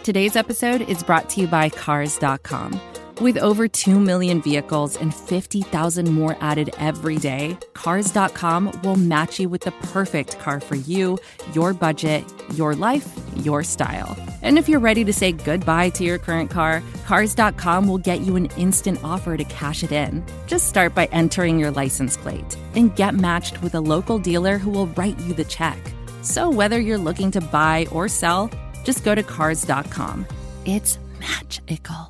Today's episode is brought to you by Cars.com. With over 2 million vehicles and 50,000 more added every day, Cars.com will match you with the perfect car for you, your budget, your life, your style. And if you're ready to say goodbye to your current car, Cars.com will get you an instant offer to cash it in. Just start by entering your license plate and get matched with a local dealer who will write you the check. So whether you're looking to buy or sell, just go to Cars.com. It's magical.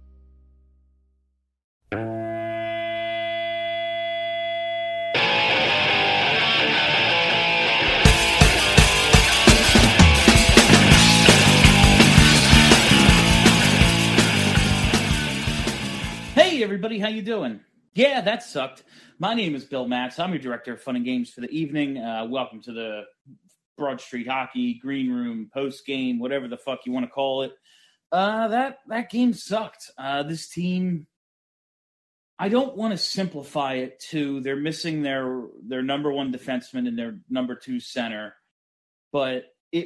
Hey everybody, how you doing? Yeah, that sucked. My name is Bill Matz. I'm your director of fun and games for the evening. Welcome to the Broad Street Hockey Green Room post game, whatever the fuck you want to call it. That game sucked. This team, I don't want to simplify it to they're missing their number one defenseman and their number two center, but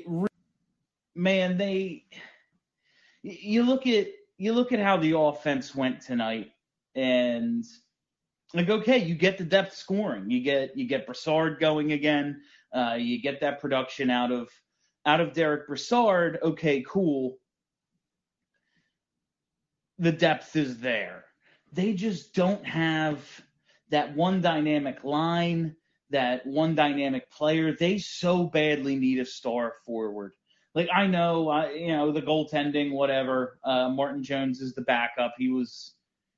you look at how the offense went tonight, and like, okay, you get the depth scoring, you get Brassard going again, you get that production out of Derek Brassard. Okay, cool. The depth is there. They just don't have that one dynamic line, that one dynamic player. They so badly need a star forward. Like, I know, the goaltending, whatever. Martin Jones is the backup. He was,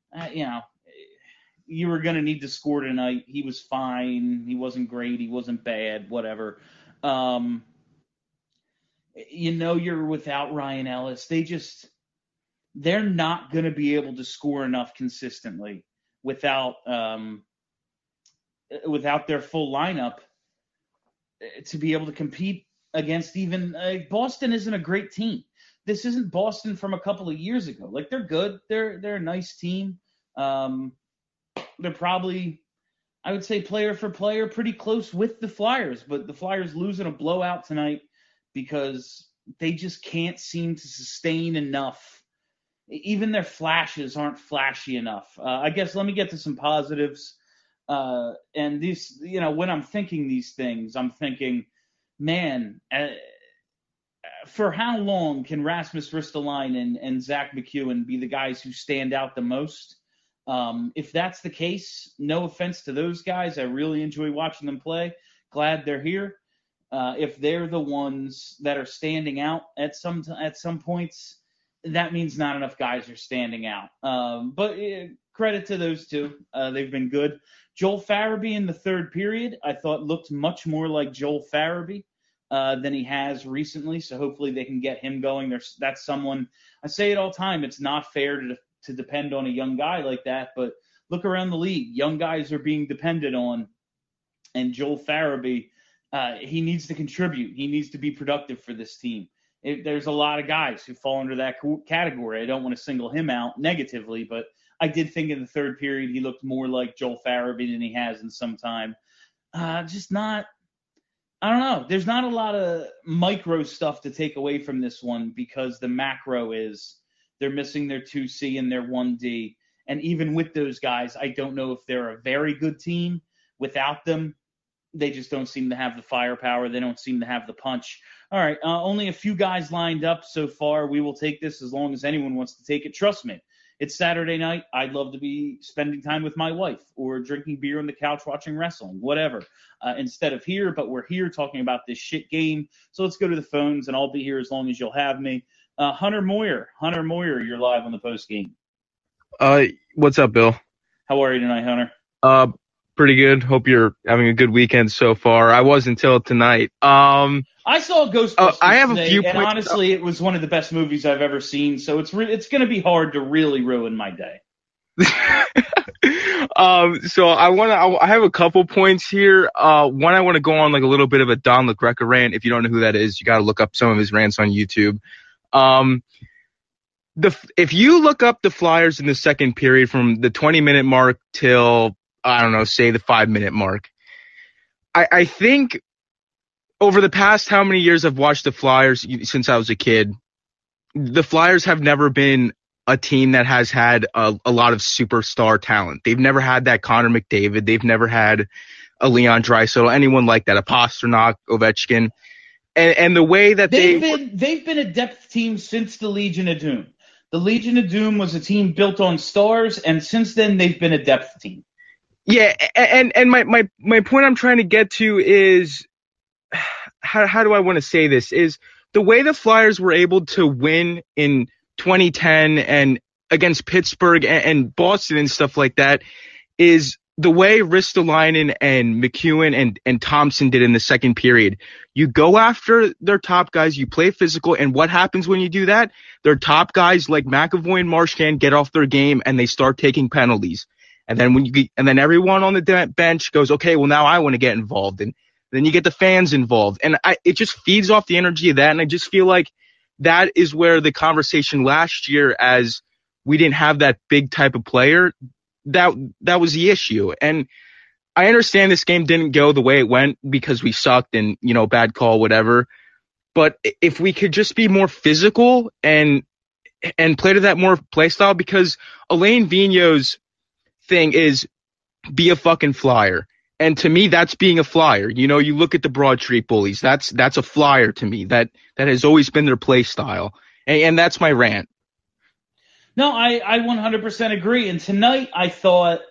you were going to need to score tonight. He was fine. He wasn't great. He wasn't bad, whatever. You're without Ryan Ellis. They're not going to be able to score enough consistently without their full lineup to be able to compete against even Boston. Isn't a great team. This isn't Boston from a couple of years ago. Like, they're good. They're a nice team. They're probably, I would say, player for player, pretty close with the Flyers, but the Flyers losing a blowout tonight because they just can't seem to sustain enough. Even their flashes aren't flashy enough. I guess let me get to some positives. And these, when I'm thinking these things, I'm thinking, man, for how long can Rasmus Ristolainen and Zach McEwen be the guys who stand out the most? If that's the case, no offense to those guys, I really enjoy watching them play. Glad they're here. If they're the ones that are standing out at some points, that means not enough guys are standing out. But credit to those two. They've been good. Joel Farabee in the third period, I thought, looked much more like Joel Farabee than he has recently. So hopefully they can get him going. That's someone, I say it all the time, it's not fair to depend on a young guy like that. But look around the league. Young guys are being depended on. And Joel Farabee, he needs to contribute. He needs to be productive for this team. There's a lot of guys who fall under that category. I don't want to single him out negatively, but I did think in the third period he looked more like Joel Farabee than he has in some time. Just not – I don't know. There's not a lot of micro stuff to take away from this one because the macro is they're missing their 2C and their 1D. And even with those guys, I don't know if they're a very good team. Without them, they just don't seem to have the firepower. They don't seem to have the punch. All right, only a few guys lined up so far. We will take this as long as anyone wants to take it. Trust me, it's Saturday night. I'd love to be spending time with my wife or drinking beer on the couch watching wrestling, whatever, instead of here. But we're here talking about this shit game. So let's go to the phones, and I'll be here as long as you'll have me. Hunter Moyer, you're live on the post game. What's up, Bill? How are you tonight, Hunter? Pretty good. Hope you're having a good weekend so far. I was until tonight. I saw Ghostbusters I have today, a few and honestly, it was one of the best movies I've ever seen. So it's going to be hard to really ruin my day. So I have a couple points here. One, I want to go on like a little bit of a Don LaGreca rant. If you don't know who that is, you got to look up some of his rants on YouTube. If you look up the Flyers in the second period from the 20-minute mark till, I don't know, say the 5-minute mark, I think over the past how many years I've watched the Flyers since I was a kid, the Flyers have never been a team that has had a lot of superstar talent. They've never had that Connor McDavid. They've never had a Leon Draisaitl, anyone like that, a Pastrnak, Ovechkin. And the way that they've been a depth team since the Legion of Doom. The Legion of Doom was a team built on stars, and since then they've been a depth team. Yeah, and my point I'm trying to get to is how do I want to say this? Is the way the Flyers were able to win in 2010 and against Pittsburgh and Boston and stuff like that is the way Ristolainen and McEwen and Thompson did in the second period. You go after their top guys, you play physical, and what happens when you do that? Their top guys like McAvoy and Marchand get off their game and they start taking penalties. And then everyone on the bench goes, okay, well now I want to get involved, and then you get the fans involved, and it just feeds off the energy of that. And I just feel like that is where the conversation last year, as we didn't have that big type of player, that was the issue. And I understand this game didn't go the way it went because we sucked and, bad call, whatever. But if we could just be more physical and play to that more play style, because Alain Vigneault's thing is be a fucking Flyer. And to me, that's being a Flyer. You look at the Broad Street Bullies. That's a Flyer to me. That has always been their play style. And that's my rant. No, I 100% agree. And tonight I thought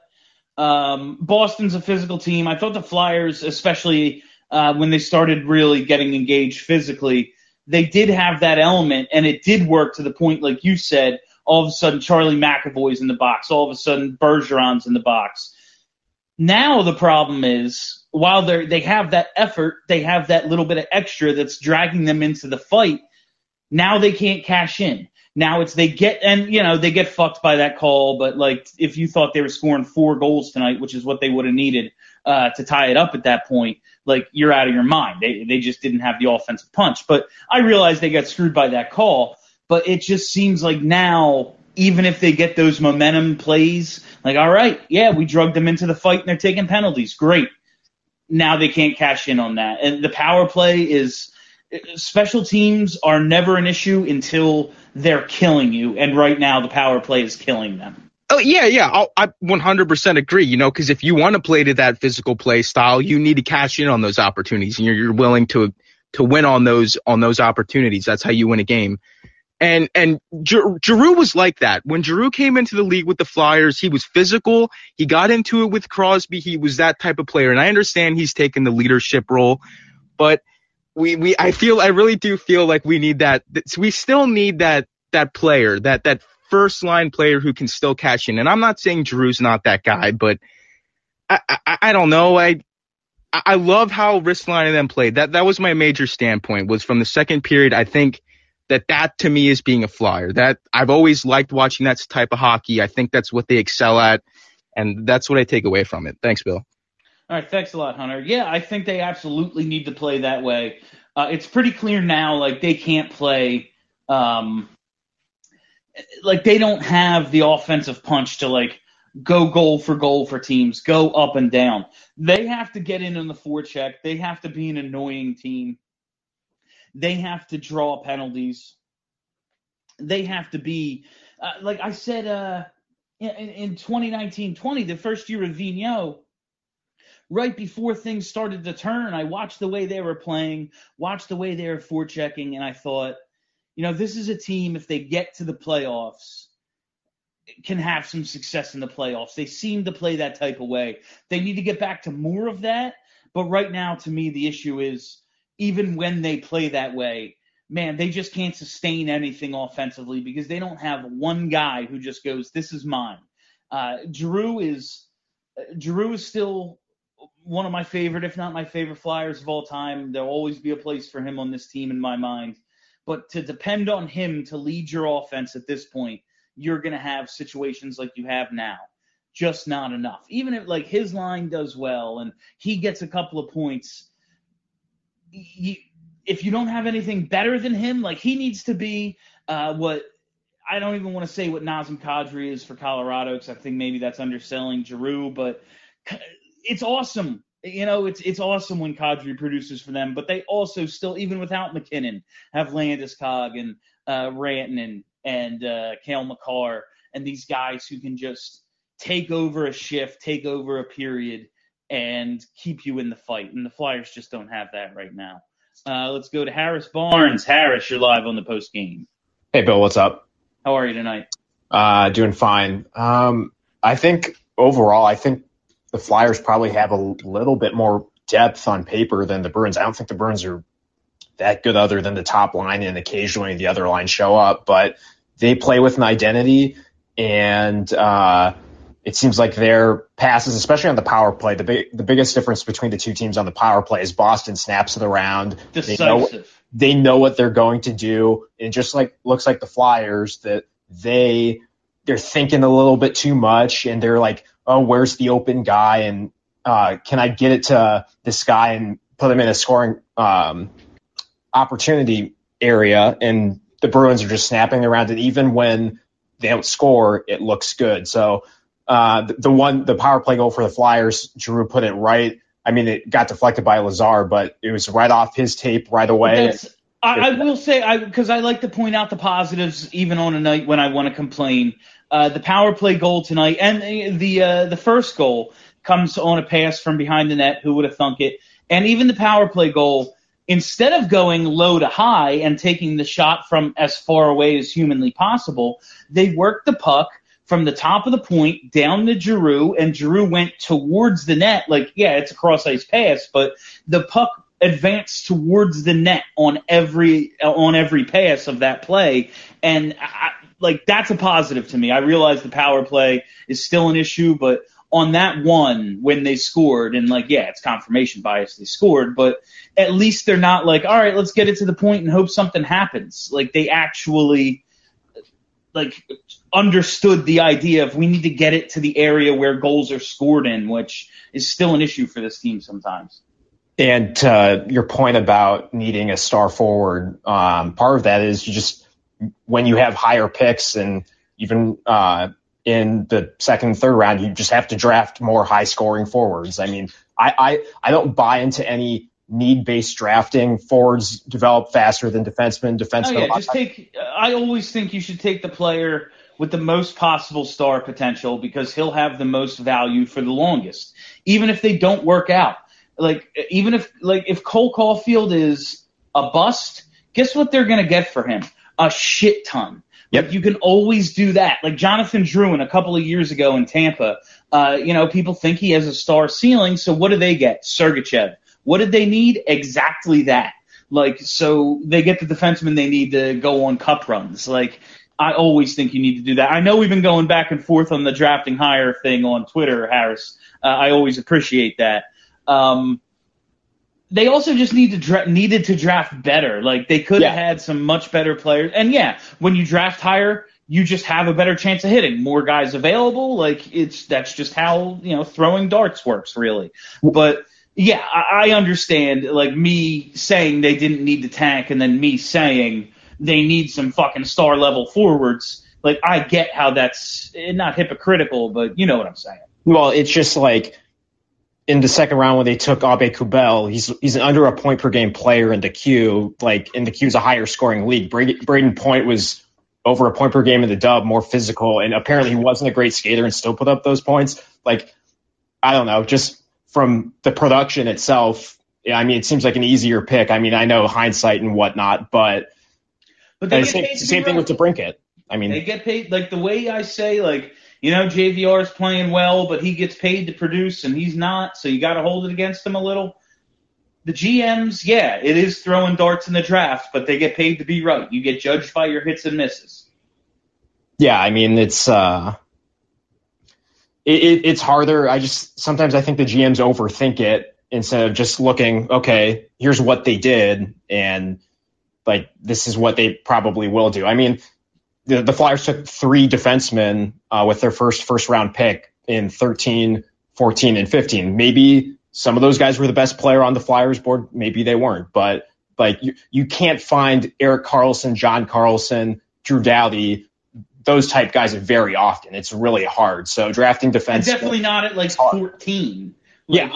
Boston's a physical team. I thought the Flyers, especially when they started really getting engaged physically, they did have that element, and it did work to the point, like you said, all of a sudden Charlie McAvoy's in the box. All of a sudden Bergeron's in the box. Now the problem is, while they have that effort, they have that little bit of extra that's dragging them into the fight. Now they can't cash in. Now they get fucked by that call, but like if you thought they were scoring 4 goals tonight, which is what they would have needed to tie it up at that point, like you're out of your mind. They just didn't have the offensive punch. But I realize they got screwed by that call, but it just seems like now, even if they get those momentum plays, like, all right, yeah, we drugged them into the fight and they're taking penalties. Great. Now they can't cash in on that. And the power play is – special teams are never an issue until they're killing you. And right now the power play is killing them. Oh, yeah. I 100% agree, because if you want to play to that physical play style, you need to cash in on those opportunities. And you're willing to win on those opportunities. That's how you win a game. And Giroux was like that. When Giroux came into the league with the Flyers, he was physical. He got into it with Crosby. He was that type of player. And I understand he's taken the leadership role, but I really do feel like we need that. We still need that player, that first line player who can still cash in. And I'm not saying Giroux's not that guy, but I don't know. I love how Ristolainen and them played. That was my major standpoint, was from the second period. I think that to me is being a Flyer. That I've always liked watching that type of hockey. I think that's what they excel at, and that's what I take away from it. Thanks, Bill. All right, thanks a lot, Hunter. Yeah, I think they absolutely need to play that way. It's pretty clear now, like they can't play, like they don't have the offensive punch to like go goal for teams, go up and down. They have to get in on the forecheck. They have to be an annoying team. They have to draw penalties. They have to be, like I said, in 2019-20, the first year of Vigneault, right before things started to turn, I watched the way they were playing, watched the way they were forechecking, and I thought, this is a team, if they get to the playoffs, can have some success in the playoffs. They seem to play that type of way. They need to get back to more of that, but right now, to me, the issue is, even when they play that way, man, they just can't sustain anything offensively because they don't have one guy who just goes, this is mine. Giroux is still one of my favorite, if not my favorite Flyers of all time. There'll always be a place for him on this team in my mind. But to depend on him to lead your offense at this point, you're going to have situations like you have now. Just not enough. Even if like his line does well and he gets a couple of points, if you don't have anything better than him, like he needs to be what I don't even want to say what Nazem Kadri is for Colorado, because I think maybe that's underselling Giroux, but it's awesome. It's awesome when Kadri produces for them, but they also still, even without McKinnon, have Landeskog and Rantanen and Cale Makar and these guys who can just take over a shift, take over a period, and keep you in the fight. And the Flyers just don't have that right now. Let's go to Harris Barnes. Harris, you're live on the post game. Hey, Bill, what's up? How are you tonight? Doing fine. I think overall, the Flyers probably have a little bit more depth on paper than the Bruins. I don't think the Bruins are that good other than the top line and occasionally the other line show up, but they play with an identity, and it seems like their passes, especially on the power play, the biggest difference between the two teams on the power play is Boston snaps it around. Decisive. They know what they're going to do. And just looks like the Flyers, that they're thinking a little bit too much, and they're like, oh, where's the open guy? And can I get it to this guy and put him in a scoring opportunity area? And the Bruins are just snapping around it. Even when they don't score, it looks good. So the power play goal for the Flyers, Giroux put it right. I mean, it got deflected by Lazar, but it was right off his tape right away. I will say, because I like to point out the positives even on a night when I want to complain. The power play goal tonight and the first goal comes on a pass from behind the net. Who would have thunk it? And even the power play goal, instead of going low to high and taking the shot from as far away as humanly possible, they worked the puck from the top of the point down to Giroux, and Giroux went towards the net. Like, yeah, it's a cross-ice pass, but the puck advanced towards the net on every pass of that play, and that's a positive to me. I realize the power play is still an issue, but on that one when they scored, and it's confirmation bias they scored, but at least they're not like, all right, let's get it to the point and hope something happens. Like, they actually understood the idea of we need to get it to the area where goals are scored in, which is still an issue for this team sometimes. And your point about needing a star forward, part of that is you just, when you have higher picks and even in the second and third round, you just have to draft more high scoring forwards. I mean, I don't buy into any need-based drafting. Forwards develop faster than defensemen. I always think you should take the player with the most possible star potential, because he'll have the most value for the longest, even if they don't work out. Even if Cole Caulfield is a bust, guess what they're going to get for him? A shit ton. Yep. You can always do that. Like Jonathan Drouin a couple of years ago in Tampa, people think he has a star ceiling, so what do they get? Sergachev. What did they need? Exactly that. So they get the defenseman they need to go on cup runs. I always think you need to do that. I know we've been going back and forth on the drafting higher thing on Twitter, Harris. I always appreciate that. They also just needed to draft better. They could have had some much better players. And when you draft higher, you just have a better chance of hitting. More guys available. That's just how, throwing darts works, really. But yeah, I understand, me saying they didn't need to tank and then me saying they need some fucking star level forwards. I get how that's not hypocritical, but you know what I'm saying. Well, it's just in the second round when they took Abe Kubel, he's an under a point per game player in the Q. In the Q is a higher scoring league. Braden Point was over a point per game in the Dub, more physical, and apparently he wasn't a great skater and still put up those points. I don't know, just from the production itself, I mean, it seems like an easier pick. I mean, I know hindsight and whatnot, but they same thing with DeBrincat. I mean, they get paid the way I say, JVR is playing well, but he gets paid to produce and he's not, so you got to hold it against him a little. The GMs, it is throwing darts in the draft, but they get paid to be right. You get judged by your hits and misses. Yeah, I mean, it's harder. Sometimes I think the GMs overthink it instead of just looking, okay, here's what they did, and this is what they probably will do. I mean, the Flyers took 3 defensemen with their first round pick in 13, 14, and 15. Maybe some of those guys were the best player on the Flyers board. Maybe they weren't. But you can't find Erik Karlsson, John Carlson, Drew Doughty, those type guys very often. It's really hard. So drafting defense, definitely not at 14.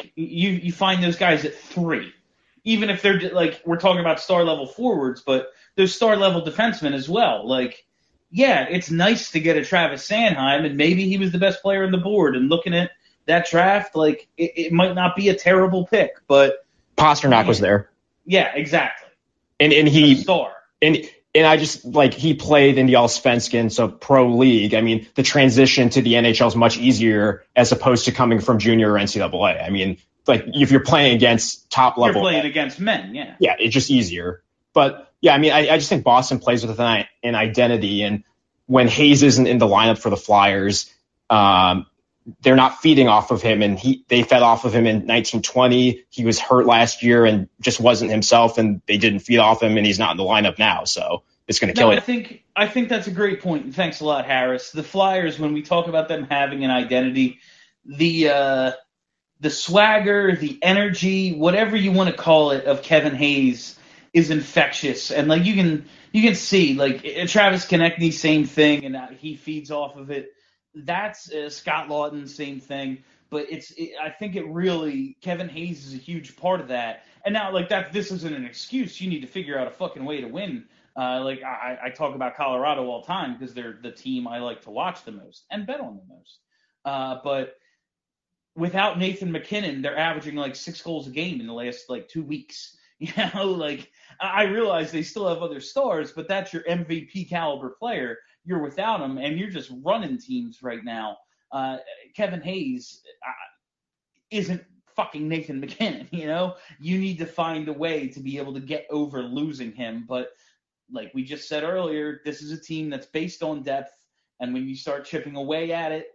You find those guys at 3. Even if they're we're talking about star level forwards, but those star level defensemen as well. Like, yeah, it's nice to get a Travis Sanheim, and maybe he was the best player on the board. And looking at that draft, like, it might not be a terrible pick, but Pasternak was there. Yeah, exactly. And he a star. And I just, like, he played in the Allsvenskan, so pro league. I mean, the transition to the NHL is much easier as opposed to coming from junior or NCAA. I mean, like, if you're playing against top level. You're playing against men, yeah. Yeah, it's just easier. But, yeah, I mean, I just think Boston plays with an identity. And when Hayes isn't in the lineup for the Flyers, they're not feeding off of him. And they fed off of him in 1920. He was hurt last year and just wasn't himself, and they didn't feed off him, and he's not in the lineup now. So it's going to kill it. I think that's a great point, and thanks a lot, Harris. The Flyers, when we talk about them having an identity, the swagger, the energy, whatever you want to call it, of Kevin Hayes is infectious. And like you can see, like Travis Konechny, same thing, and he feeds off of it. That's Scott Lawton, same thing. But I think it really, Kevin Hayes is a huge part of that. And now, like, this isn't an excuse. You need to figure out a fucking way to win. I talk about Colorado all the time because they're the team I like to watch the most and bet on the most. But without Nathan MacKinnon, they're averaging like 6 goals a game in the last like 2 weeks. You know, like, I realize they still have other stars, but that's your MVP caliber player. You're without him, and you're just running teams right now. Kevin Hayes isn't fucking Nathan MacKinnon, you know? You need to find a way to be able to get over losing him. But like we just said earlier, this is a team that's based on depth, and when you start chipping away at it,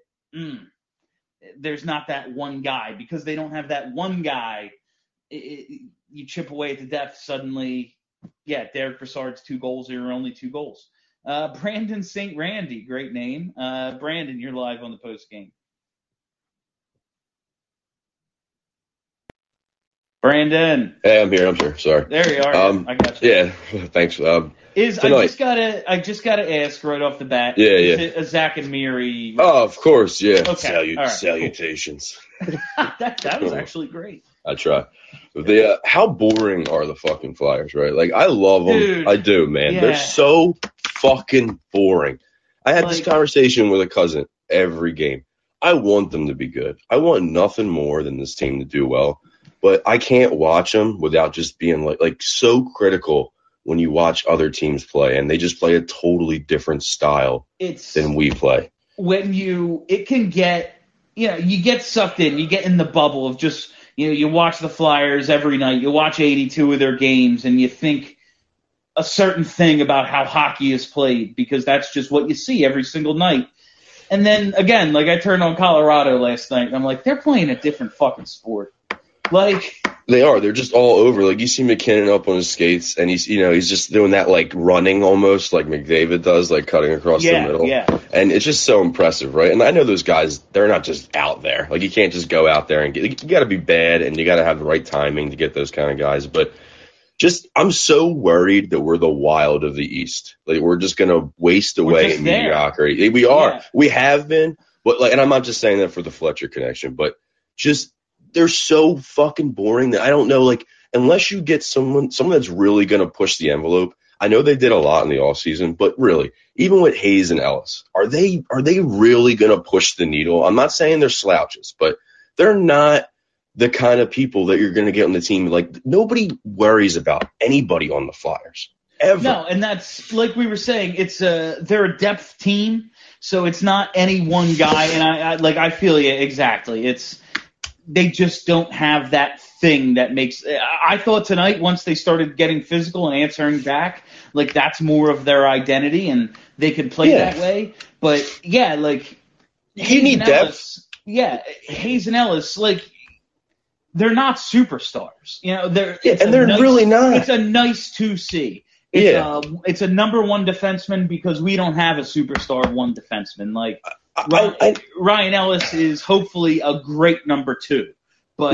there's not that one guy. Because they don't have that one guy, you chip away at the depth, suddenly, yeah, Derek Brassard's 2 goals are only 2 goals. Brandon St. Randy, great name. Brandon, you're live on the post game. Brandon. Hey, I'm here. Sorry. There you are. I got you. Yeah, thanks. I just gotta ask right off the bat. Yeah. Is it a Zach and Miri? Oh, of course, yeah. Okay. All right, salutations. Cool. that was actually great. I try. How boring are the fucking Flyers, right? Like, I love them. Dude, I do, man. yeah. They're so fucking boring. I had this conversation with a cousin every game. I want them to be good. I want nothing more than this team to do well. But I can't watch them without just being like so critical when you watch other teams play, and they just play a totally different style than we play. When it can get, you get sucked in, you get in the bubble of just, you watch the Flyers every night, you watch 82 of their games, and you think a certain thing about how hockey is played because that's just what you see every single night. And then, again, like I turned on Colorado last night, and I'm like, they're playing a different fucking sport. Like, they are. They're just all over. Like, you see MacKinnon up on his skates, and he's just doing that, like, running almost like McDavid does, like cutting across the middle. Yeah. And it's just so impressive, right? And I know those guys, they're not just out there. Like, you can't just go out there and you got to be bad, and you got to have the right timing to get those kind of guys. But I'm so worried that we're the Wild of the East. Like, we're just going to waste away in mediocrity. We are. Yeah. We have been. But, like, and I'm not just saying that for the Fletcher connection, but just they're so fucking boring that I don't know, like, unless you get someone that's really going to push the envelope. I know they did a lot in the offseason, but really, even with Hayes and Ellis, are they really going to push the needle? I'm not saying they're slouches, but they're not the kind of people that you're going to get on the team. Like, nobody worries about anybody on the Flyers ever. No, and that's, like we were saying, they're a depth team, so it's not any one guy, and I feel you exactly. They just don't have that thing that makes – I thought tonight once they started getting physical and answering back, like that's more of their identity and they could play that way. But, yeah, like – you need depth. Yeah, Hayes and Ellis, like they're not superstars. They're really not. It's a nice 2C. It's a number one defenseman because we don't have a superstar one defenseman. Like – Ryan Ellis is hopefully a great number 2, but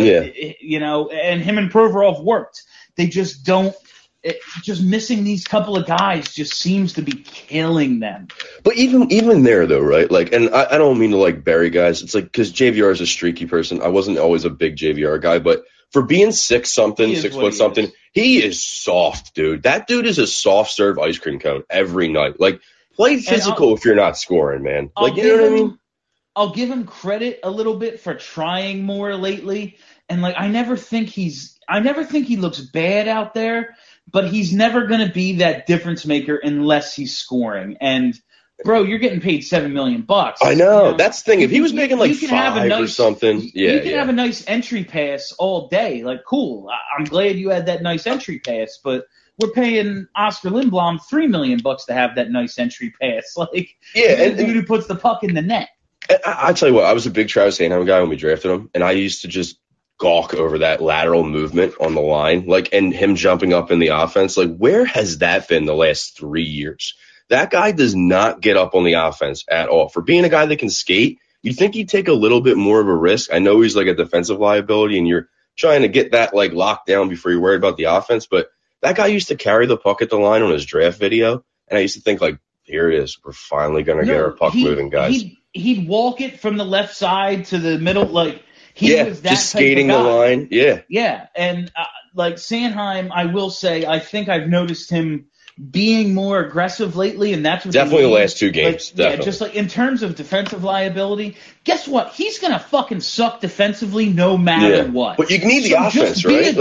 and him and Provorov worked. They just don't. Just missing these couple of guys just seems to be killing them. But even there though, right? Like, and I don't mean to like bury guys. It's like because JVR is a streaky person. I wasn't always a big JVR guy, but for being 6'something, 6 foot something, he is soft, dude. That dude is a soft serve ice cream cone every night. Like, play physical if you're not scoring, man. Like, you know what I mean? I'll give him credit a little bit for trying more lately. And like, I never think he looks bad out there, but he's never going to be that difference maker unless he's scoring. And bro, you're getting paid $7 million. I know. That's the thing. If he was making like 5 or something, you can have a nice entry pass all day. Like, cool. I'm glad you had that nice entry pass, but we're paying Oscar Lindblom $3 million to have that nice entry pass. Like, and dude who puts the puck in the net. I tell you what, I was a big Travis Sanheim guy when we drafted him, and I used to just gawk over that lateral movement on the line, like, and him jumping up in the offense. Like, where has that been the last 3 years? That guy does not get up on the offense at all. For being a guy that can skate, you'd think he'd take a little bit more of a risk. I know he's like a defensive liability, and you're trying to get that like locked down before you're worried about the offense. But that guy used to carry the puck at the line on his draft video, and I used to think, like, here it is. We're finally going to get our puck moving, guys. He'd walk it from the left side to the middle, like he was that just skating the line. Yeah, and like Sanheim, I will say, I think I've noticed him being more aggressive lately, and that's what definitely the last 2 games. Like, yeah, just like in terms of defensive liability, guess what? He's gonna fucking suck defensively no matter what. But you need the offense, just right?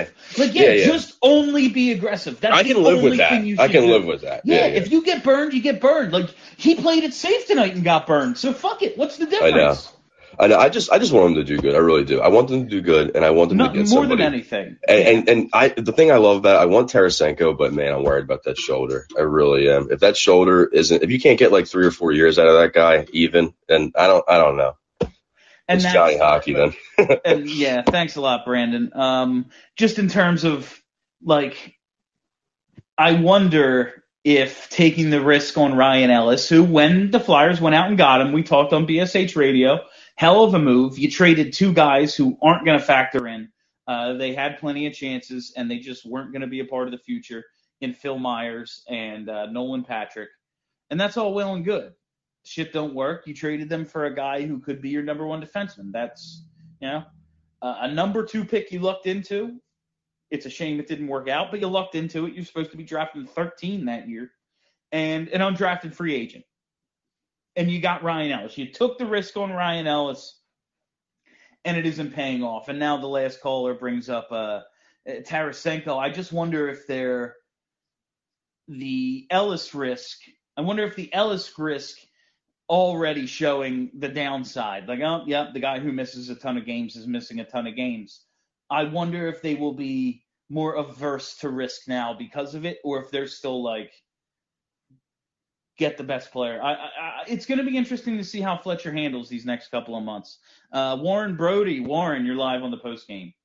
Just only be aggressive. That's I can live with that. I can live with that. Yeah, if you get burned, you get burned. Like, he played it safe tonight and got burned. So fuck it. What's the difference? I know. I just want him to do good. I really do. I want them to do good, and I want them to get somebody. More than anything. And the thing I love about it, I want Tarasenko, but man, I'm worried about that shoulder. I really am. If that shoulder if you can't get like 3 or 4 years out of that guy, even, then I don't know. And it's Johnny Hockey then. And yeah, thanks a lot, Brandon. Just in terms of like, I wonder if taking the risk on Ryan Ellis, who when the Flyers went out and got him, we talked on BSH Radio. Hell of a move. You traded 2 guys who aren't going to factor in. They had plenty of chances, and they just weren't going to be a part of the future in Phil Myers and Nolan Patrick. And that's all well and good. Shit don't work. You traded them for a guy who could be your number 1 defenseman. That's, a number 2 pick you lucked into. It's a shame it didn't work out, but you lucked into it. You're supposed to be drafting 13 that year. And an undrafted free agent. And you got Ryan Ellis. You took the risk on Ryan Ellis, and it isn't paying off. And now the last caller brings up Tarasenko. I just wonder if the Ellis risk already showing the downside. Like, oh, yeah, the guy who misses a ton of games is missing a ton of games. I wonder if they will be more averse to risk now because of it, or if they're still like, get the best player. It's going to be interesting to see how Fletcher handles these next couple of months. Warren Brody. Warren, you're live on the post game.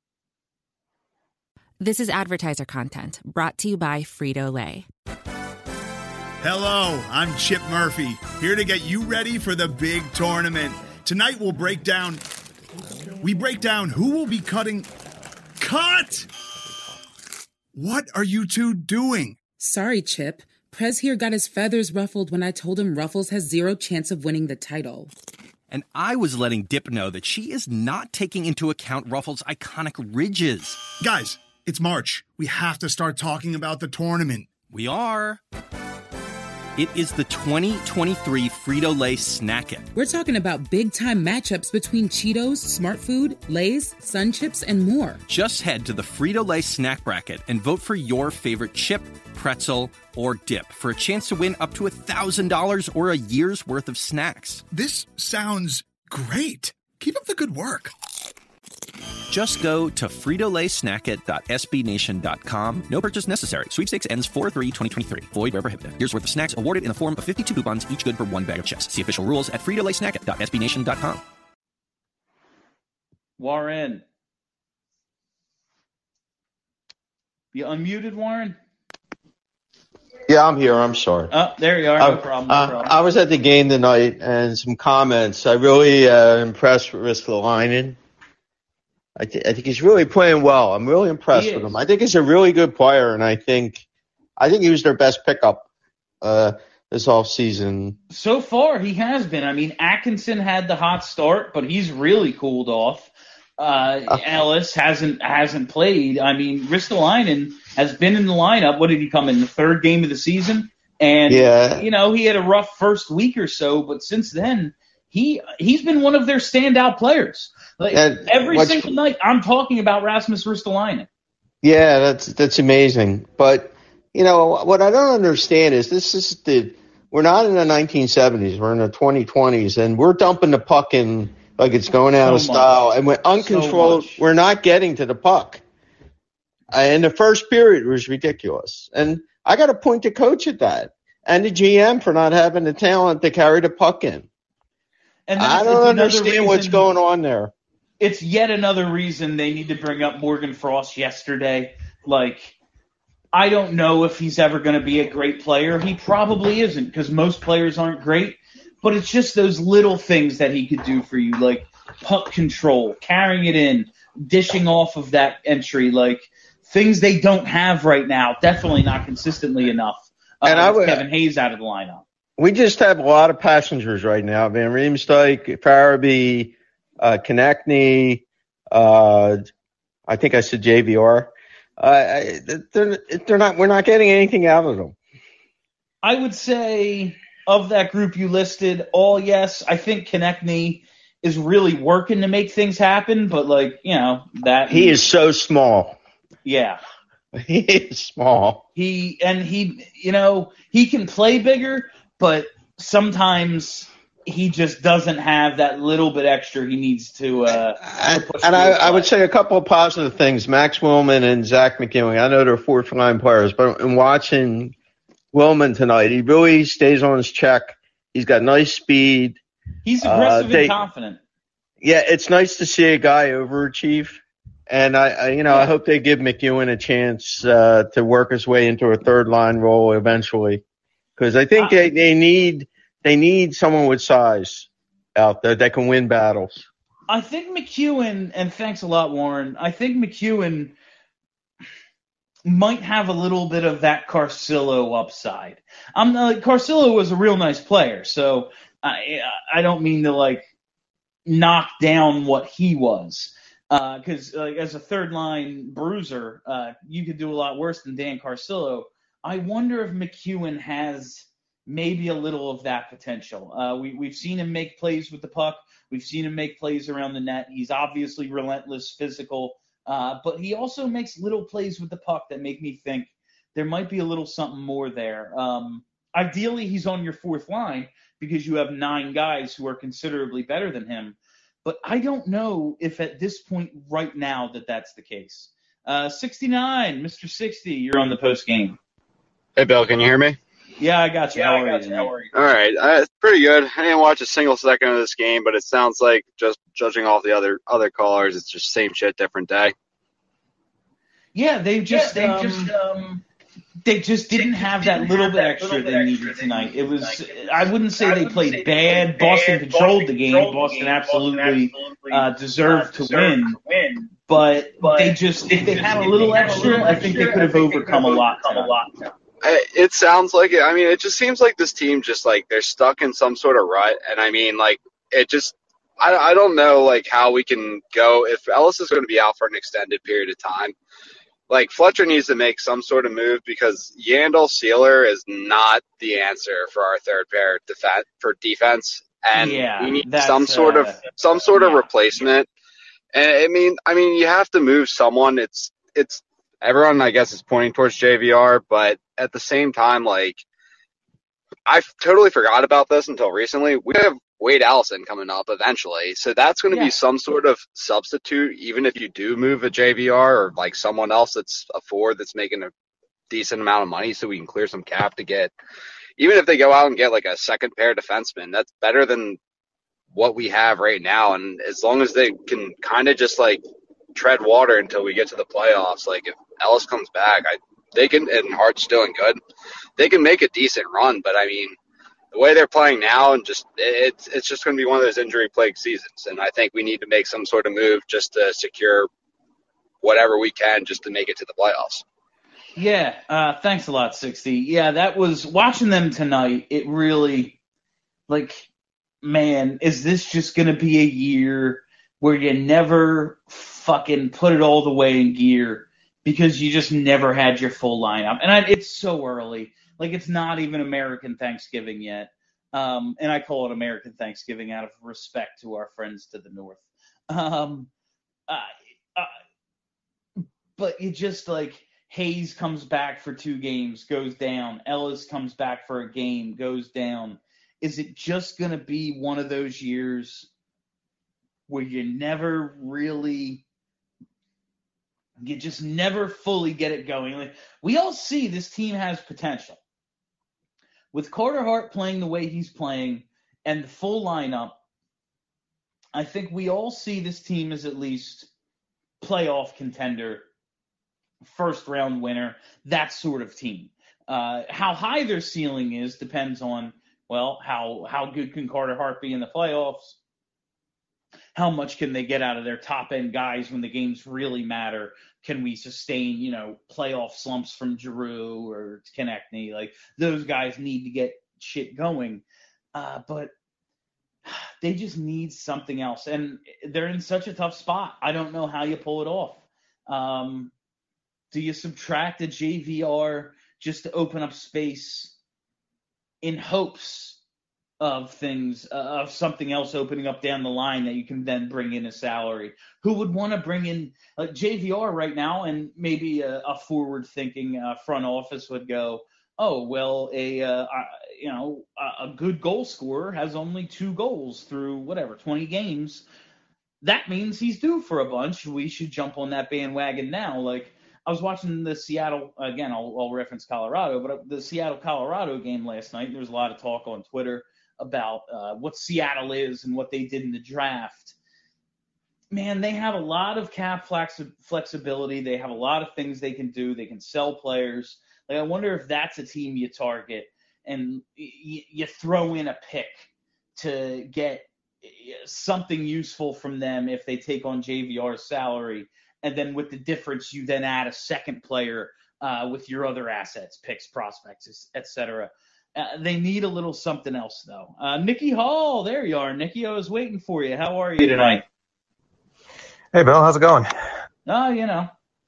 This is advertiser content brought to you by Frito-Lay. Hello, I'm Chip Murphy, here to get you ready for the big tournament. Tonight we'll break down who will be cutting. Cut! What are you two doing? Sorry, Chip. Prez here got his feathers ruffled when I told him Ruffles has 0 chance of winning the title. And I was letting Dip know that she is not taking into account Ruffles' iconic ridges. Guys, it's March. We have to start talking about the tournament. We are. It is the 2023 Frito-Lay Snack It. We're talking about big-time matchups between Cheetos, Smart Food, Lay's, Sun Chips, and more. Just head to the Frito-Lay Snack Bracket and vote for your favorite chip, pretzel, or dip for a chance to win up to $1,000 or a year's worth of snacks. This sounds great. Keep up the good work. Just go to fritolaysnackit.sbnation.com. No purchase necessary. Sweepstakes ends 4/3/2023. Void where prohibited. Year's worth of snacks awarded in the form of 52 coupons, each good for 1 bag of chips. See official rules at fritolaysnackit.sbnation.com. Warren. You unmuted, Warren? Yeah, I'm here. I'm sorry. Oh, there you are. No problem. I was at the game tonight, and some comments. I really impressed with Ristolainen. I think he's really playing well. I'm really impressed with him. I think he's a really good player, and I think he was their best pickup this offseason. So far, he has been. I mean, Atkinson had the hot start, but he's really cooled off. Ellis hasn't played. I mean, Ristolainen has been in the lineup. What did he come in the third game of the season? And he had a rough first week or so, but since then he's been one of their standout players. Like every single night, I'm talking about Rasmus Ristolainen. Yeah, that's amazing. But what I don't understand is we're not in the 1970s. We're in the 2020s, and we're dumping the puck in like it's going out of style, and we're uncontrolled. We're not getting to the puck. And the first period was ridiculous. And I got to point the coach at that, and the GM for not having the talent to carry the puck in. And I don't understand what's going on there. It's yet another reason they need to bring up Morgan Frost yesterday. Like, I don't know if he's ever going to be a great player. He probably isn't, because most players aren't great. But it's just those little things that he could do for you, like puck control, carrying it in, dishing off of that entry, like things they don't have right now. Definitely not consistently enough. With Kevin Hayes out of the lineup. We just have a lot of passengers right now. Van Riemsdyk, Farabee, Konechny, I think I said JVR. We're not getting anything out of them. I would say of that group you listed, all yes. I think Konechny is really working to make things happen, but he is so small. Yeah. He is small. He can play bigger, but sometimes he just doesn't have that little bit extra he needs to push. And I would say a couple of positive things. Max Willman and Zach McEwen. I know they're fourth-line players, but in watching Willman tonight, he really stays on his check. He's got nice speed. He's aggressive and confident. Yeah, it's nice to see a guy overachieve. And I hope they give McEwen a chance to work his way into a third-line role eventually, because I think they need someone with size out there that can win battles. I think McEwen, and thanks a lot, Warren. I think McEwen might have a little bit of that Carcillo upside. Carcillo was a real nice player, so I don't mean to knock down what he was. Because as a third-line bruiser, you could do a lot worse than Dan Carcillo. I wonder if McEwen has maybe a little of that potential. We've seen him make plays with the puck. We've seen him make plays around the net. He's obviously relentless, physical, but he also makes little plays with the puck that make me think there might be a little something more there. Ideally, he's on your fourth line because you have 9 guys who are considerably better than him. But I don't know if at this point right now that's the case. 69, Mr. 60, you're on the post game. Hey, Bill, can you hear me? Yeah, I got you. How are you? All right, it's pretty good. I didn't watch a single second of this game, but it sounds like, just judging off the other callers, it's just same shit, different day. Yeah, they just didn't have that little bit extra they needed tonight. It was, I wouldn't say they played bad. Boston controlled the game. Boston absolutely deserved to win. But they just, if they had a little extra, I think they could have overcome a lot. It sounds like it. I mean, it just seems like this team just they're stuck in some sort of rut. And I mean, it just, I don't know how we can go if Ellis is going to be out for an extended period of time. Fletcher needs to make some sort of move because Yandel Sealer is not the answer for our third pair for defense, and we need some sort of replacement. And I mean, you have to move someone. It's everyone, I guess, is pointing towards JVR, but at the same time, I totally forgot about this until recently. We have Wade Allison coming up eventually. So that's going to be some sort of substitute, even if you do move a JVR or someone else that's a forward that's making a decent amount of money so we can clear some cap to get, even if they go out and get a second pair defenseman, that's better than what we have right now. And as long as they can kind of just tread water until we get to the playoffs, if Ellis comes back, they can, and Hart's doing good, they can make a decent run. But I mean, the way they're playing now, and it's just going to be one of those injury-plagued seasons. And I think we need to make some sort of move just to secure whatever we can just to make it to the playoffs. Yeah, thanks a lot, 60. Yeah, that was, watching them tonight, it really, man, is this just going to be a year where you never fucking put it all the way in gear because you just never had your full lineup. And it's so early. Like, it's not even American Thanksgiving yet. And I call it American Thanksgiving out of respect to our friends to the north. But you just, like, Hayes comes back for 2 games, goes down. Ellis comes back for a game, goes down. Is it just going to be one of those years where you just never fully get it going? Like, we all see this team has potential. With Carter Hart playing the way he's playing and the full lineup, I think we all see this team as at least playoff contender, first-round winner, that sort of team. How high their ceiling is depends on, well, how good can Carter Hart be in the playoffs? How much can they get out of their top-end guys when the games really matter? Can we sustain, playoff slumps from Giroux or Konechny? Like, those guys need to get shit going. But they just need something else. And they're in such a tough spot. I don't know how you pull it off. Do you subtract a JVR just to open up space in hopes of things, of something else opening up down the line that you can then bring in a salary? Who would want to bring in JVR right now? And maybe a forward-thinking front office would go, oh, well, a good goal scorer has only 2 goals through 20 games. That means he's due for a bunch. We should jump on that bandwagon now. Like, I was watching the Seattle, again, I'll reference Colorado, but the Seattle-Colorado game last night. There was a lot of talk on Twitter about what Seattle is and what they did in the draft. Man, they have a lot of cap flexibility. They have a lot of things they can do. They can sell players. Like, I wonder if that's a team you target and you throw in a pick to get something useful from them if they take on JVR's salary. And then with the difference, you then add a second player with your other assets, picks, prospects, etc. They need a little something else, though. Nikki Hall, there you are. Nikki, I was waiting for you. How are you tonight? Hey, Bill, how's it going? Oh,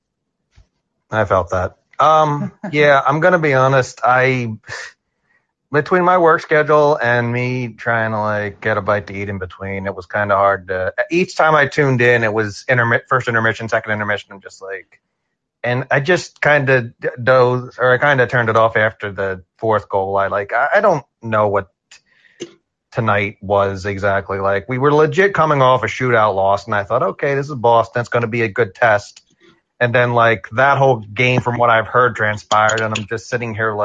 I felt that. Yeah, I'm going to be honest. Between my work schedule and me trying to get a bite to eat in between, it was kind of hard to. Each time I tuned in, it was first intermission, second intermission. I'm just and I just kind of dozed, or I kind of turned it off after the 4th goal. I don't know what tonight was exactly like. We were legit coming off a shootout loss, and I thought, okay, this is Boston. It's going to be a good test. And then that whole game, from what I've heard, transpired, and I'm just sitting here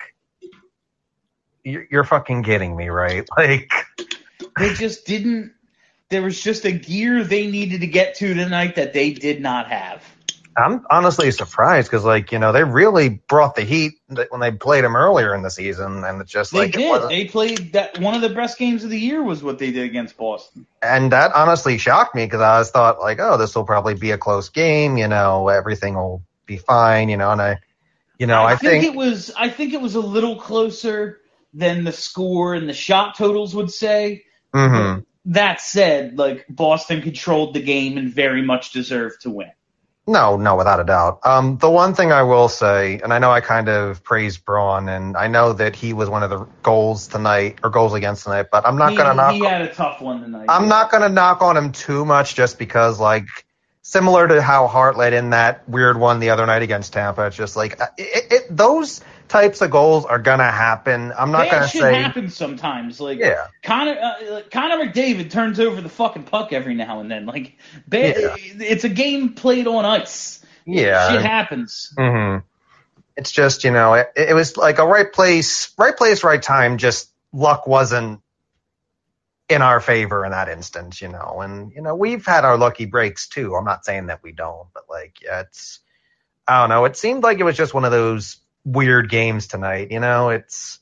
you're fucking kidding me, right? They just didn't. There was just a gear they needed to get to tonight that they did not have. I'm honestly surprised because, they really brought the heat when they played them earlier in the season, and it's just they did. They played that. One of the best games of the year was what they did against Boston, and that honestly shocked me because I thought oh, this will probably be a close game. Everything will be fine. And I think it was. I think it was a little closer than the score and the shot totals would say. Mm-hmm. That said, Boston controlled the game and very much deserved to win. No, without a doubt. The one thing I will say, and I know I kind of praised Braun, and I know that he was one of the goals against tonight, but I'm not going to knock. He had a tough one tonight. I'm not going to knock on him too much, just because, similar to how Hart let in that weird one the other night against Tampa, it's just those types of goals are going to happen. I'm not going to say. That shit happens sometimes. Yeah. Connor McDavid turns over the fucking puck every now and then. It's a game played on ice. Yeah. Shit happens. Mm-hmm. It's just, it was a right place, right time. Just luck wasn't in our favor in that instance, And, we've had our lucky breaks too. I'm not saying that we don't, but it's, I don't know. It seemed like it was just one of those weird games tonight. It's,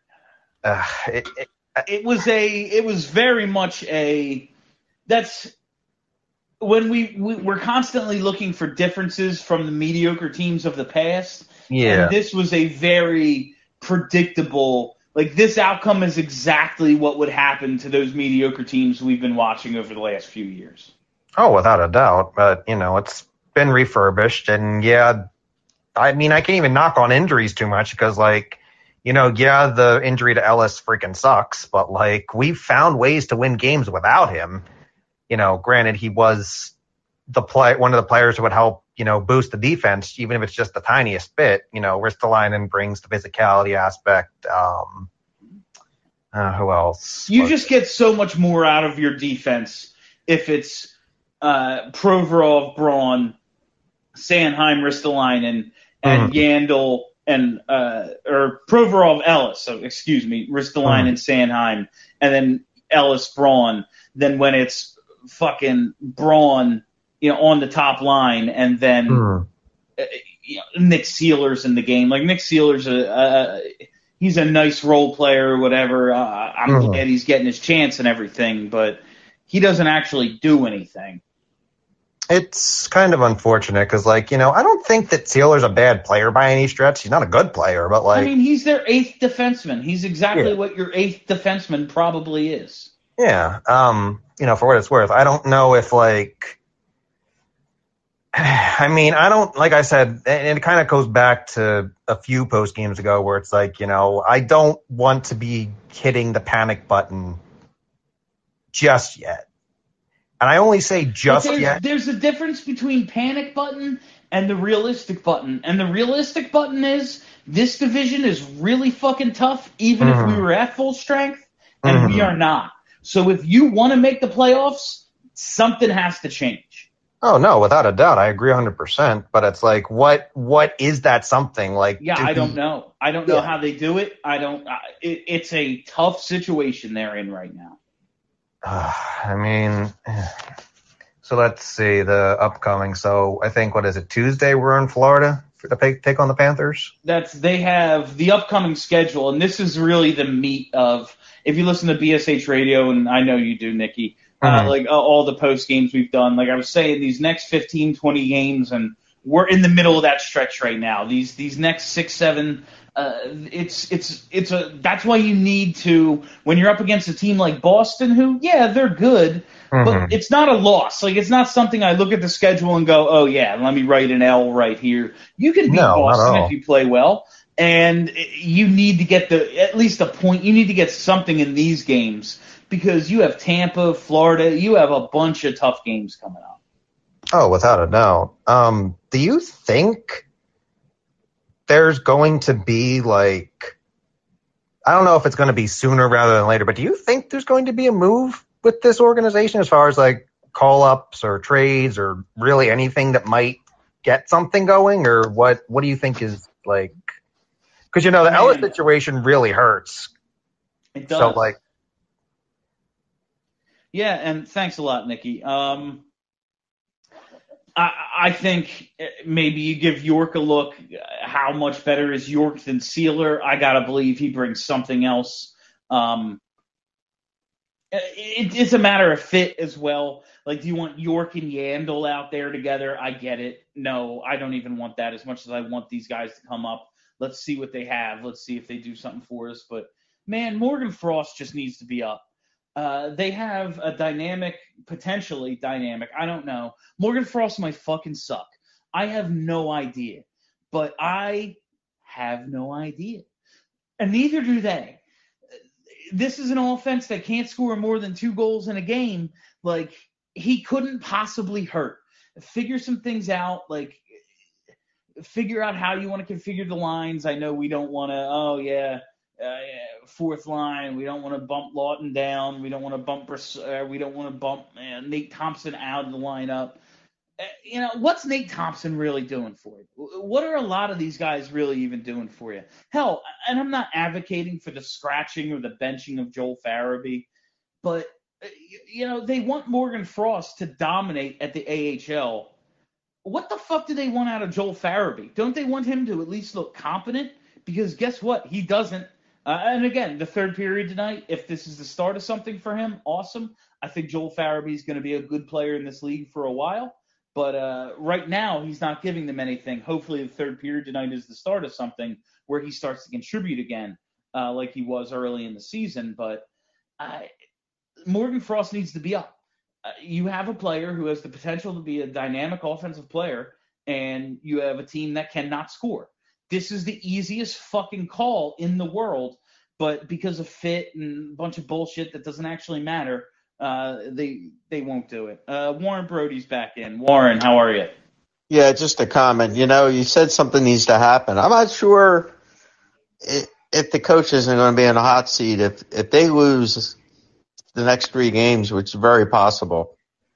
it was very much that's when we're constantly looking for differences from the mediocre teams of the past. Yeah. And this was a very predictable, this outcome is exactly what would happen to those mediocre teams we've been watching over the last few years. Oh, without a doubt. But, it's been refurbished. And, yeah, I mean, I can't even knock on injuries too much because, the injury to Ellis freaking sucks. But, we've found ways to win games without him. Granted, he was one of the players who would help, boost the defense, even if it's just the tiniest bit. Ristolainen brings the physicality aspect. Who else? You just get so much more out of your defense if it's Provorov, Braun, Sanheim, Ristolainen, and Yandel, and or Provorov, Ellis. So excuse me, Ristolainen, Sanheim, and then Ellis, Braun. Then when it's fucking Braun, on the top line, and then Nick Seeler's in the game. Like Nick Seeler's he's a nice role player or whatever. I'm glad he's getting his chance and everything, but he doesn't actually do anything. It's kind of unfortunate because, I don't think that Seeler's a bad player by any stretch. He's not a good player, but I mean, he's their 8th defenseman. He's exactly what your 8th defenseman probably is. Yeah. For what it's worth, I don't know if I mean, I don't, like I said, and it kind of goes back to a few post games ago where it's I don't want to be hitting the panic button just yet. And I only say yet. There's a difference between panic button and the realistic button. And the realistic button is this division is really fucking tough, even if we were at full strength, and we are not. So if you want to make the playoffs, something has to change. Oh, no, without a doubt. I agree 100%. But it's what is that something? I don't know. I don't know how they do it. It's a tough situation they're in right now. I mean, so let's see the upcoming. So I think, what is it, Tuesday we're in Florida to take on the Panthers? They have the upcoming schedule, and this is really the meat of, if you listen to BSH Radio, and I know you do, Nikki, all the post games we've done. Like I was saying, these next 15, 20 games, and we're in the middle of that stretch right now. These next 6, 7. That's why you need to, when you're up against a team like Boston, who, they're good, but it's not a loss. It's not something I look at the schedule and go, oh yeah, let me write an L right here. You can beat Boston if you play well, and you need to get at least a point. You need to get something in these games because you have Tampa, Florida, you have a bunch of tough games coming up. Oh, without a doubt. Do you think there's going to be I don't know if it's going to be sooner rather than later, but do you think there's going to be a move with this organization as far as call-ups or trades or really anything that might get something going? Or what do you think is because the Ellis situation really hurts. It does. So yeah, and thanks a lot, Nikki. I think maybe you give York a look. How much better is York than Seeler? I got to believe he brings something else. It's a matter of fit as well. Do you want York and Yandel out there together? I get it. No, I don't even want that as much as I want these guys to come up. Let's see what they have. Let's see if they do something for us. But, man, Morgan Frost just needs to be up. They have a potentially dynamic, I don't know. Morgan Frost might fucking suck. I have no idea. But I have no idea. And neither do they. This is an offense that can't score more than 2 goals in a game. He couldn't possibly hurt. Figure some things out. Figure out how you want to configure the lines. I know we don't want to, fourth line. We don't want to bump Lawton down. We don't want to bump Nate Thompson out of the lineup. What's Nate Thompson really doing for you? What are a lot of these guys really even doing for you? Hell, and I'm not advocating for the scratching or the benching of Joel Farabee, but they want Morgan Frost to dominate at the AHL. What the fuck do they want out of Joel Farabee? Don't they want him to at least look competent? Because guess what? He doesn't. And again, the third period tonight, if this is the start of something for him, awesome. I think Joel Farabee is going to be a good player in this league for a while. But right now, he's not giving them anything. Hopefully, the third period tonight is the start of something where he starts to contribute again like he was early in the season. But Morgan Frost needs to be up. You have a player who has the potential to be a dynamic offensive player, and you have a team that cannot score. This is the easiest fucking call in the world, but because of fit and a bunch of bullshit that doesn't actually matter, they won't do it. Warren Brody's back in. Warren, how are you? Yeah, just a comment. You said something needs to happen. I'm not sure if the coach isn't going to be in a hot seat if they lose the next 3 games, which is very possible.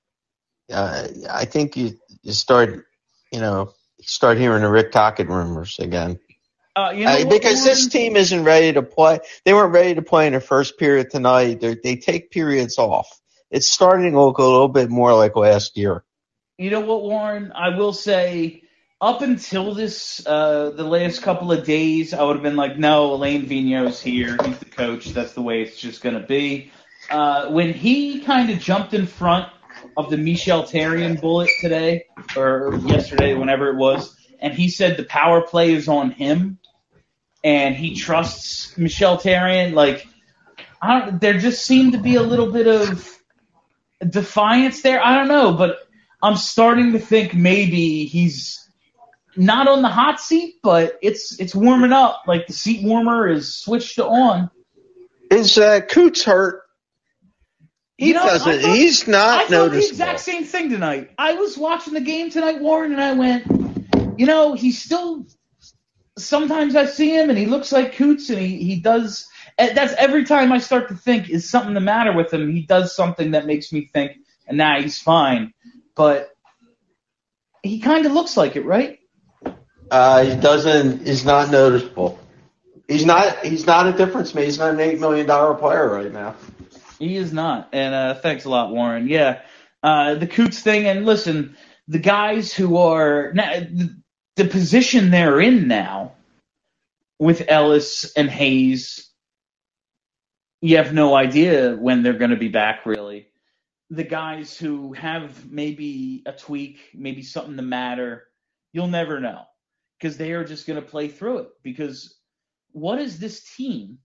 I think you start hearing the Rick Tocchet rumors again. Because this team isn't ready to play. They weren't ready to play in the first period tonight. They take periods off. It's starting to look a little bit more like last year. You know what, Warren? I will say, up until this, the last couple of days, I would have been like, no, Alain Vigneault's here. He's the coach. That's the way it's just going to be. When he kind of jumped in front of the Michel Therrien bullet today, or yesterday, whenever it was, and he said the power play is on him, and he trusts Michel Therrien, there just seemed to be a little bit of defiance there. I don't know, but I'm starting to think maybe he's not on the hot seat, but it's warming up. Like the seat warmer is switched on. Is Coots hurt? He's not noticeable. I thought the exact same thing tonight. I was watching the game tonight, Warren, and I went, he's still – sometimes I see him and he looks like Coots, and he does – that's every time I start to think, is something the matter with him? He does something that makes me think, and nah, he's fine. But he kind of looks like it, right? He doesn't. He's not noticeable. He's not a difference maker. He's not an $8 million player right now. He is not. And thanks a lot, Warren. Yeah, the Coots thing. And listen, the guys who are the position they're in now with Ellis and Hayes, you have no idea when they're going to be back, really. The guys who have maybe a tweak, maybe something to matter, you'll never know, because they are just going to play through it. Because what is this team?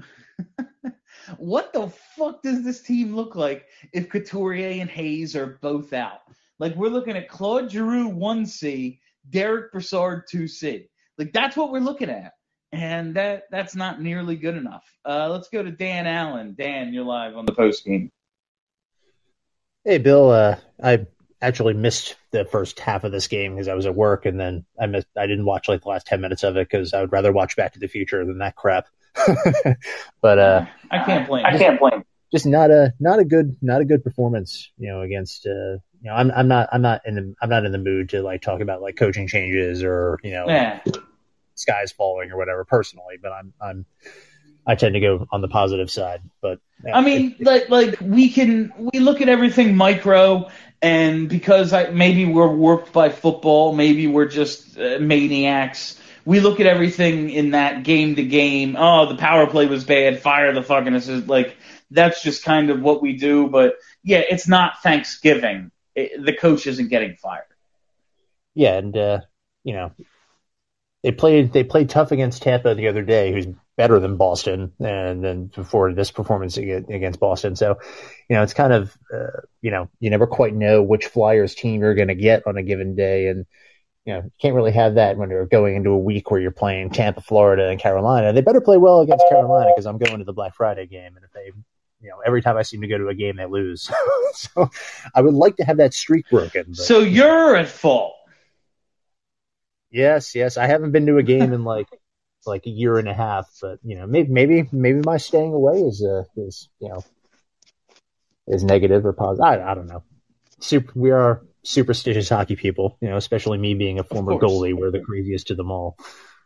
What the fuck does this team look like if Couturier and Hayes are both out? Like, we're looking at Claude Giroux 1C, Derek Brassard 2C. Like, that's what we're looking at. And that's not nearly good enough. Let's go to Dan Allen. Dan, you're live on the post game. Hey, Bill. I actually missed the first half of this game because I was at work, and then I didn't watch the last 10 minutes of it because I would rather watch Back to the Future than that crap. But I can't blame. Just not a good performance, against I'm not in the mood to talk about coaching changes or skies falling or whatever personally, but I tend to go on the positive side. But I mean, we look at everything micro, and because maybe we're warped by football, maybe we're just maniacs. We look at everything in that game to game. Oh, the power play was bad. Fire the fucking assist. That's just kind of what we do. But yeah, it's not Thanksgiving. The coach isn't getting fired. Yeah, and they played tough against Tampa the other day, who's better than Boston, and then before this performance against Boston. So, it's kind of you never quite know which Flyers team you're going to get on a given day, and you can't really have that when you're going into a week where you're playing Tampa, Florida, and Carolina. They better play well against Carolina because I'm going to the Black Friday game, and if they, every time I seem to go to a game, they lose. So I would like to have that streak broken. But, so you're at fault. Yes. I haven't been to a game in like a year and a half, but maybe my staying away is negative or positive. I don't know. We are superstitious hockey people, especially me being a former goalie. We're the craziest of them all.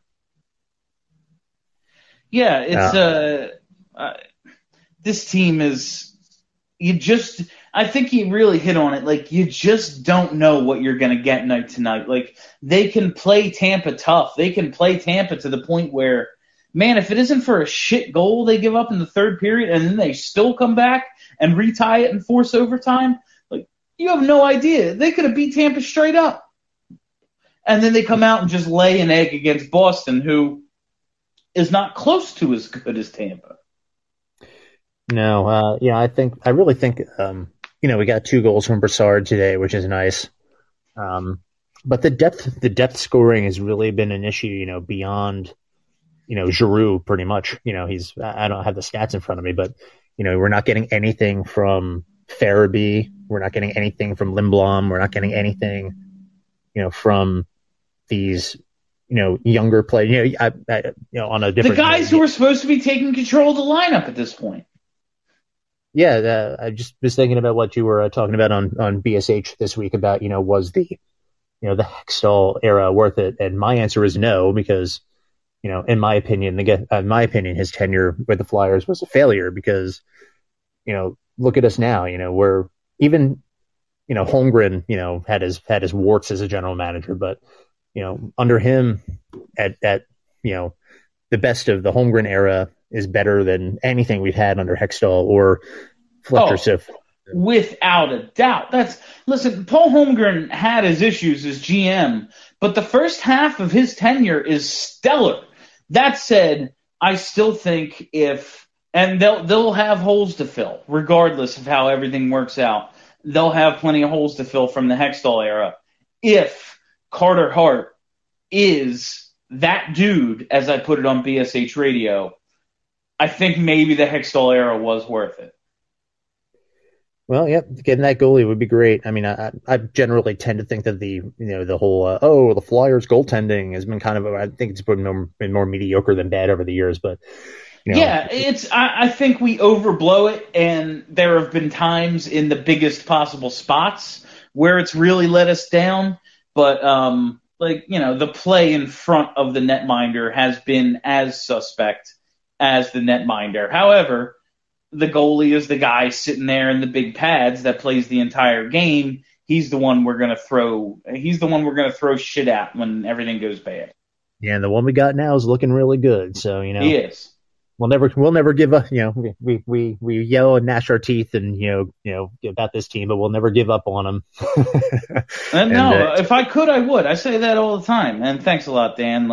Yeah, it's this team is I think you really hit on it. You just don't know what you're going to get night to night. They can play Tampa tough. They can play Tampa to the point where, man, if it isn't for a shit goal they give up in the third period and then they still come back and retie it and force overtime, you have no idea. They could have beat Tampa straight up. And then they come out and just lay an egg against Boston, who is not close to as good as Tampa. No, I really think we got 2 goals from Brassard today, which is nice. But the depth scoring has really been an issue, beyond, Giroux pretty much. I don't have the stats in front of me, but, we're not getting anything from Farabee. We're not getting anything from Lindblom. We're not getting anything, from these, younger players, on a different. The guys who are supposed to be taking control of the lineup at this point. Yeah, I just was thinking about what you were talking about on BSH this week about, was the Hextall era worth it? And my answer is no, because, in my opinion, his tenure with the Flyers was a failure because, look at us now, we're even, Holmgren, had his warts as a general manager, but, under him at the best of the Holmgren era is better than anything we've had under Hextall or Fletcher Sif. Without a doubt. Listen, Paul Holmgren had his issues as GM, but the first half of his tenure is stellar. That said, I still think they'll have holes to fill, regardless of how everything works out. They'll have plenty of holes to fill from the Hextall era. If Carter Hart is that dude, as I put it on BSH Radio, I think maybe the Hextall era was worth it. Well, yep, getting that goalie would be great. I mean, I generally tend to think that the whole the Flyers goaltending has been kind of, I think it's been more mediocre than bad over the years, but I think we overblow it, and there have been times in the biggest possible spots where it's really let us down. But the play in front of the netminder has been as suspect as the netminder. However, the goalie is the guy sitting there in the big pads that plays the entire game. He's the one we're gonna throw shit at when everything goes bad. Yeah, and the one we got now is looking really good. So he is. We'll never give up. We yell and gnash our teeth and about this team, but we'll never give up on them. If I could, I would. I say that all the time. And thanks a lot, Dan.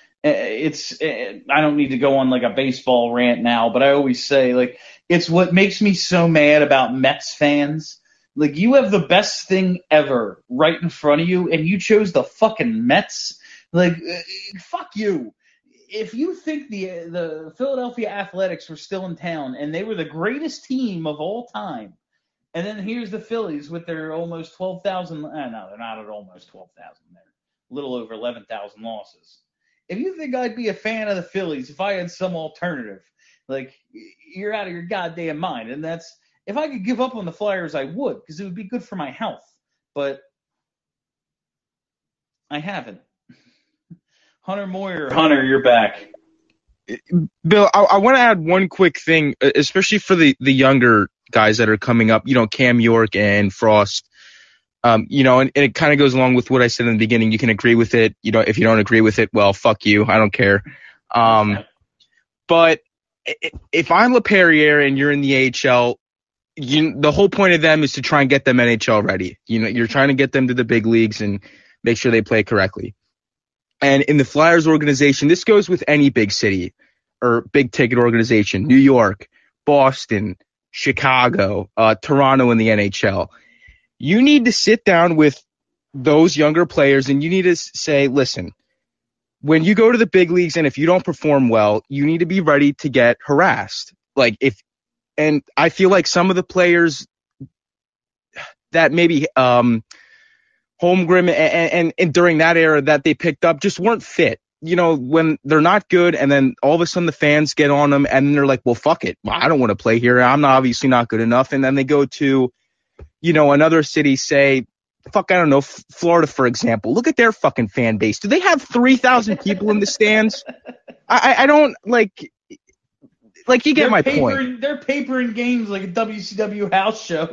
I don't need to go on like a baseball rant now, but I always say it's what makes me so mad about Mets fans. You have the best thing ever right in front of you, and you chose the fucking Mets. Fuck you. If you think the Philadelphia Athletics were still in town and they were the greatest team of all time, and then here's the Phillies with their almost 12,000. No, they're not at almost 12,000. They're a little over 11,000 losses. If you think I'd be a fan of the Phillies if I had some alternative, you're out of your goddamn mind. And if I could give up on the Flyers, I would, because it would be good for my health. But I haven't. Hunter Moyer. Hunter, you're back. Bill, I want to add one quick thing, especially for the younger guys that are coming up, Cam York and Frost. And it kind of goes along with what I said in the beginning. You can agree with it. If you don't agree with it, well, fuck you. I don't care. But if I'm LaPerriere and you're in the AHL, the whole point of them is to try and get them NHL ready. You're trying to get them to the big leagues and make sure they play correctly. And in the Flyers organization, this goes with any big city or big ticket organization, New York, Boston, Chicago, Toronto in the NHL. You need to sit down with those younger players and you need to say, listen, when you go to the big leagues and if you don't perform well, you need to be ready to get harassed. And I feel like some of the players that maybe Holmgren and during that era that they picked up just weren't fit. When they're not good and then all of a sudden the fans get on them and they're like, well, fuck it. I don't want to play here. I'm obviously not good enough. And then they go to, another city, say, I don't know, Florida, for example. Look at their fucking fan base. Do they have 3,000 people in the stands? I don't you get my point. They're papering games like a WCW house show.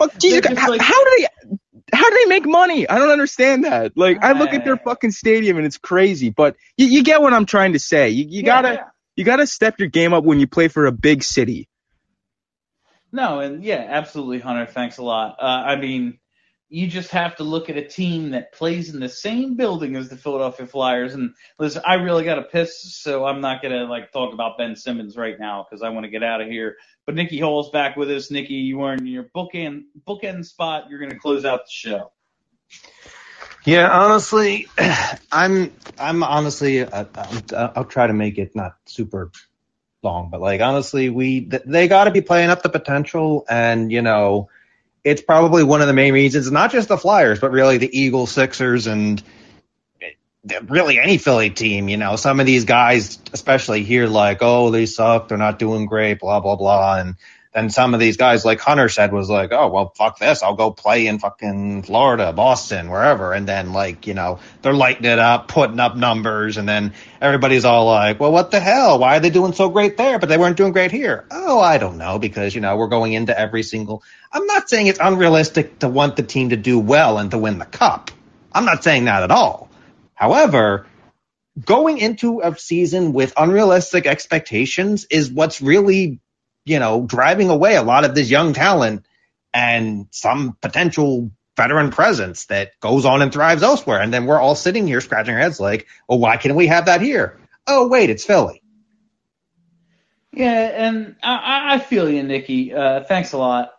How do they make money? I don't understand that. I look at their fucking stadium and it's crazy, but you get what I'm trying to say. You gotta step your game up when you play for a big city. No, and yeah, absolutely, Hunter. Thanks a lot. you just have to look at a team that plays in the same building as the Philadelphia Flyers. And listen, I really got to piss, so I'm not going to talk about Ben Simmons right now because I want to get out of here. But Nikki Hall's back with us. Nikki, you are in your bookend spot. You're going to close out the show. Yeah, honestly, I'm honestly, I'll try to make it not super long, but honestly, they got to be playing up the potential, and it's probably one of the main reasons, not just the Flyers, but really the Eagles, Sixers, and really any Philly team. Some of these guys, especially here, they suck, they're not doing great, blah blah blah, and then some of these guys, like Hunter said, was like, oh, well, fuck this. I'll go play in fucking Florida, Boston, wherever. And then, they're lighting it up, putting up numbers. And then everybody's all like, well, what the hell? Why are they doing so great there, but they weren't doing great here? Oh, I don't know, because, we're going into every single – I'm not saying it's unrealistic to want the team to do well and to win the cup. I'm not saying that at all. However, going into a season with unrealistic expectations is what's really – driving away a lot of this young talent and some potential veteran presence that goes on and thrives elsewhere. And then we're all sitting here scratching our heads like, well, why can't we have that here? Oh, wait, it's Philly. Yeah, and I feel you, Nikki. Thanks a lot.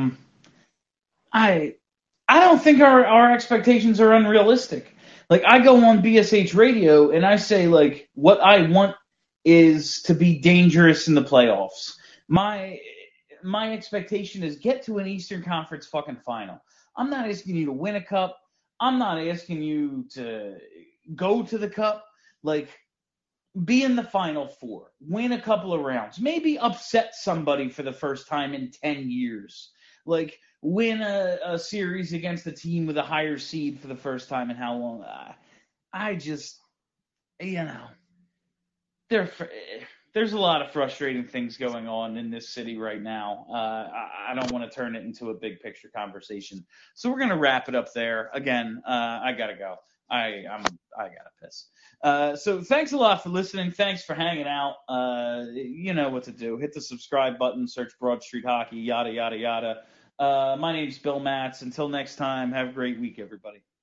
I don't think our expectations are unrealistic. I go on BSH Radio and I say, what I want is to be dangerous in the playoffs. My expectation is get to an Eastern Conference fucking final. I'm not asking you to win a cup. I'm not asking you to go to the cup. Be in the Final Four. Win a couple of rounds. Maybe upset somebody for the first time in 10 years. Win a series against a team with a higher seed for the first time in how long? I just, there's a lot of frustrating things going on in this city right now. I don't want to turn it into a big picture conversation. So we're going to wrap it up there. Again, I got to go. I got to piss. So thanks a lot for listening. Thanks for hanging out. You know what to do. Hit the subscribe button, search Broad Street Hockey, yada, yada, yada. My name's Bill Matz. Until next time, have a great week, everybody.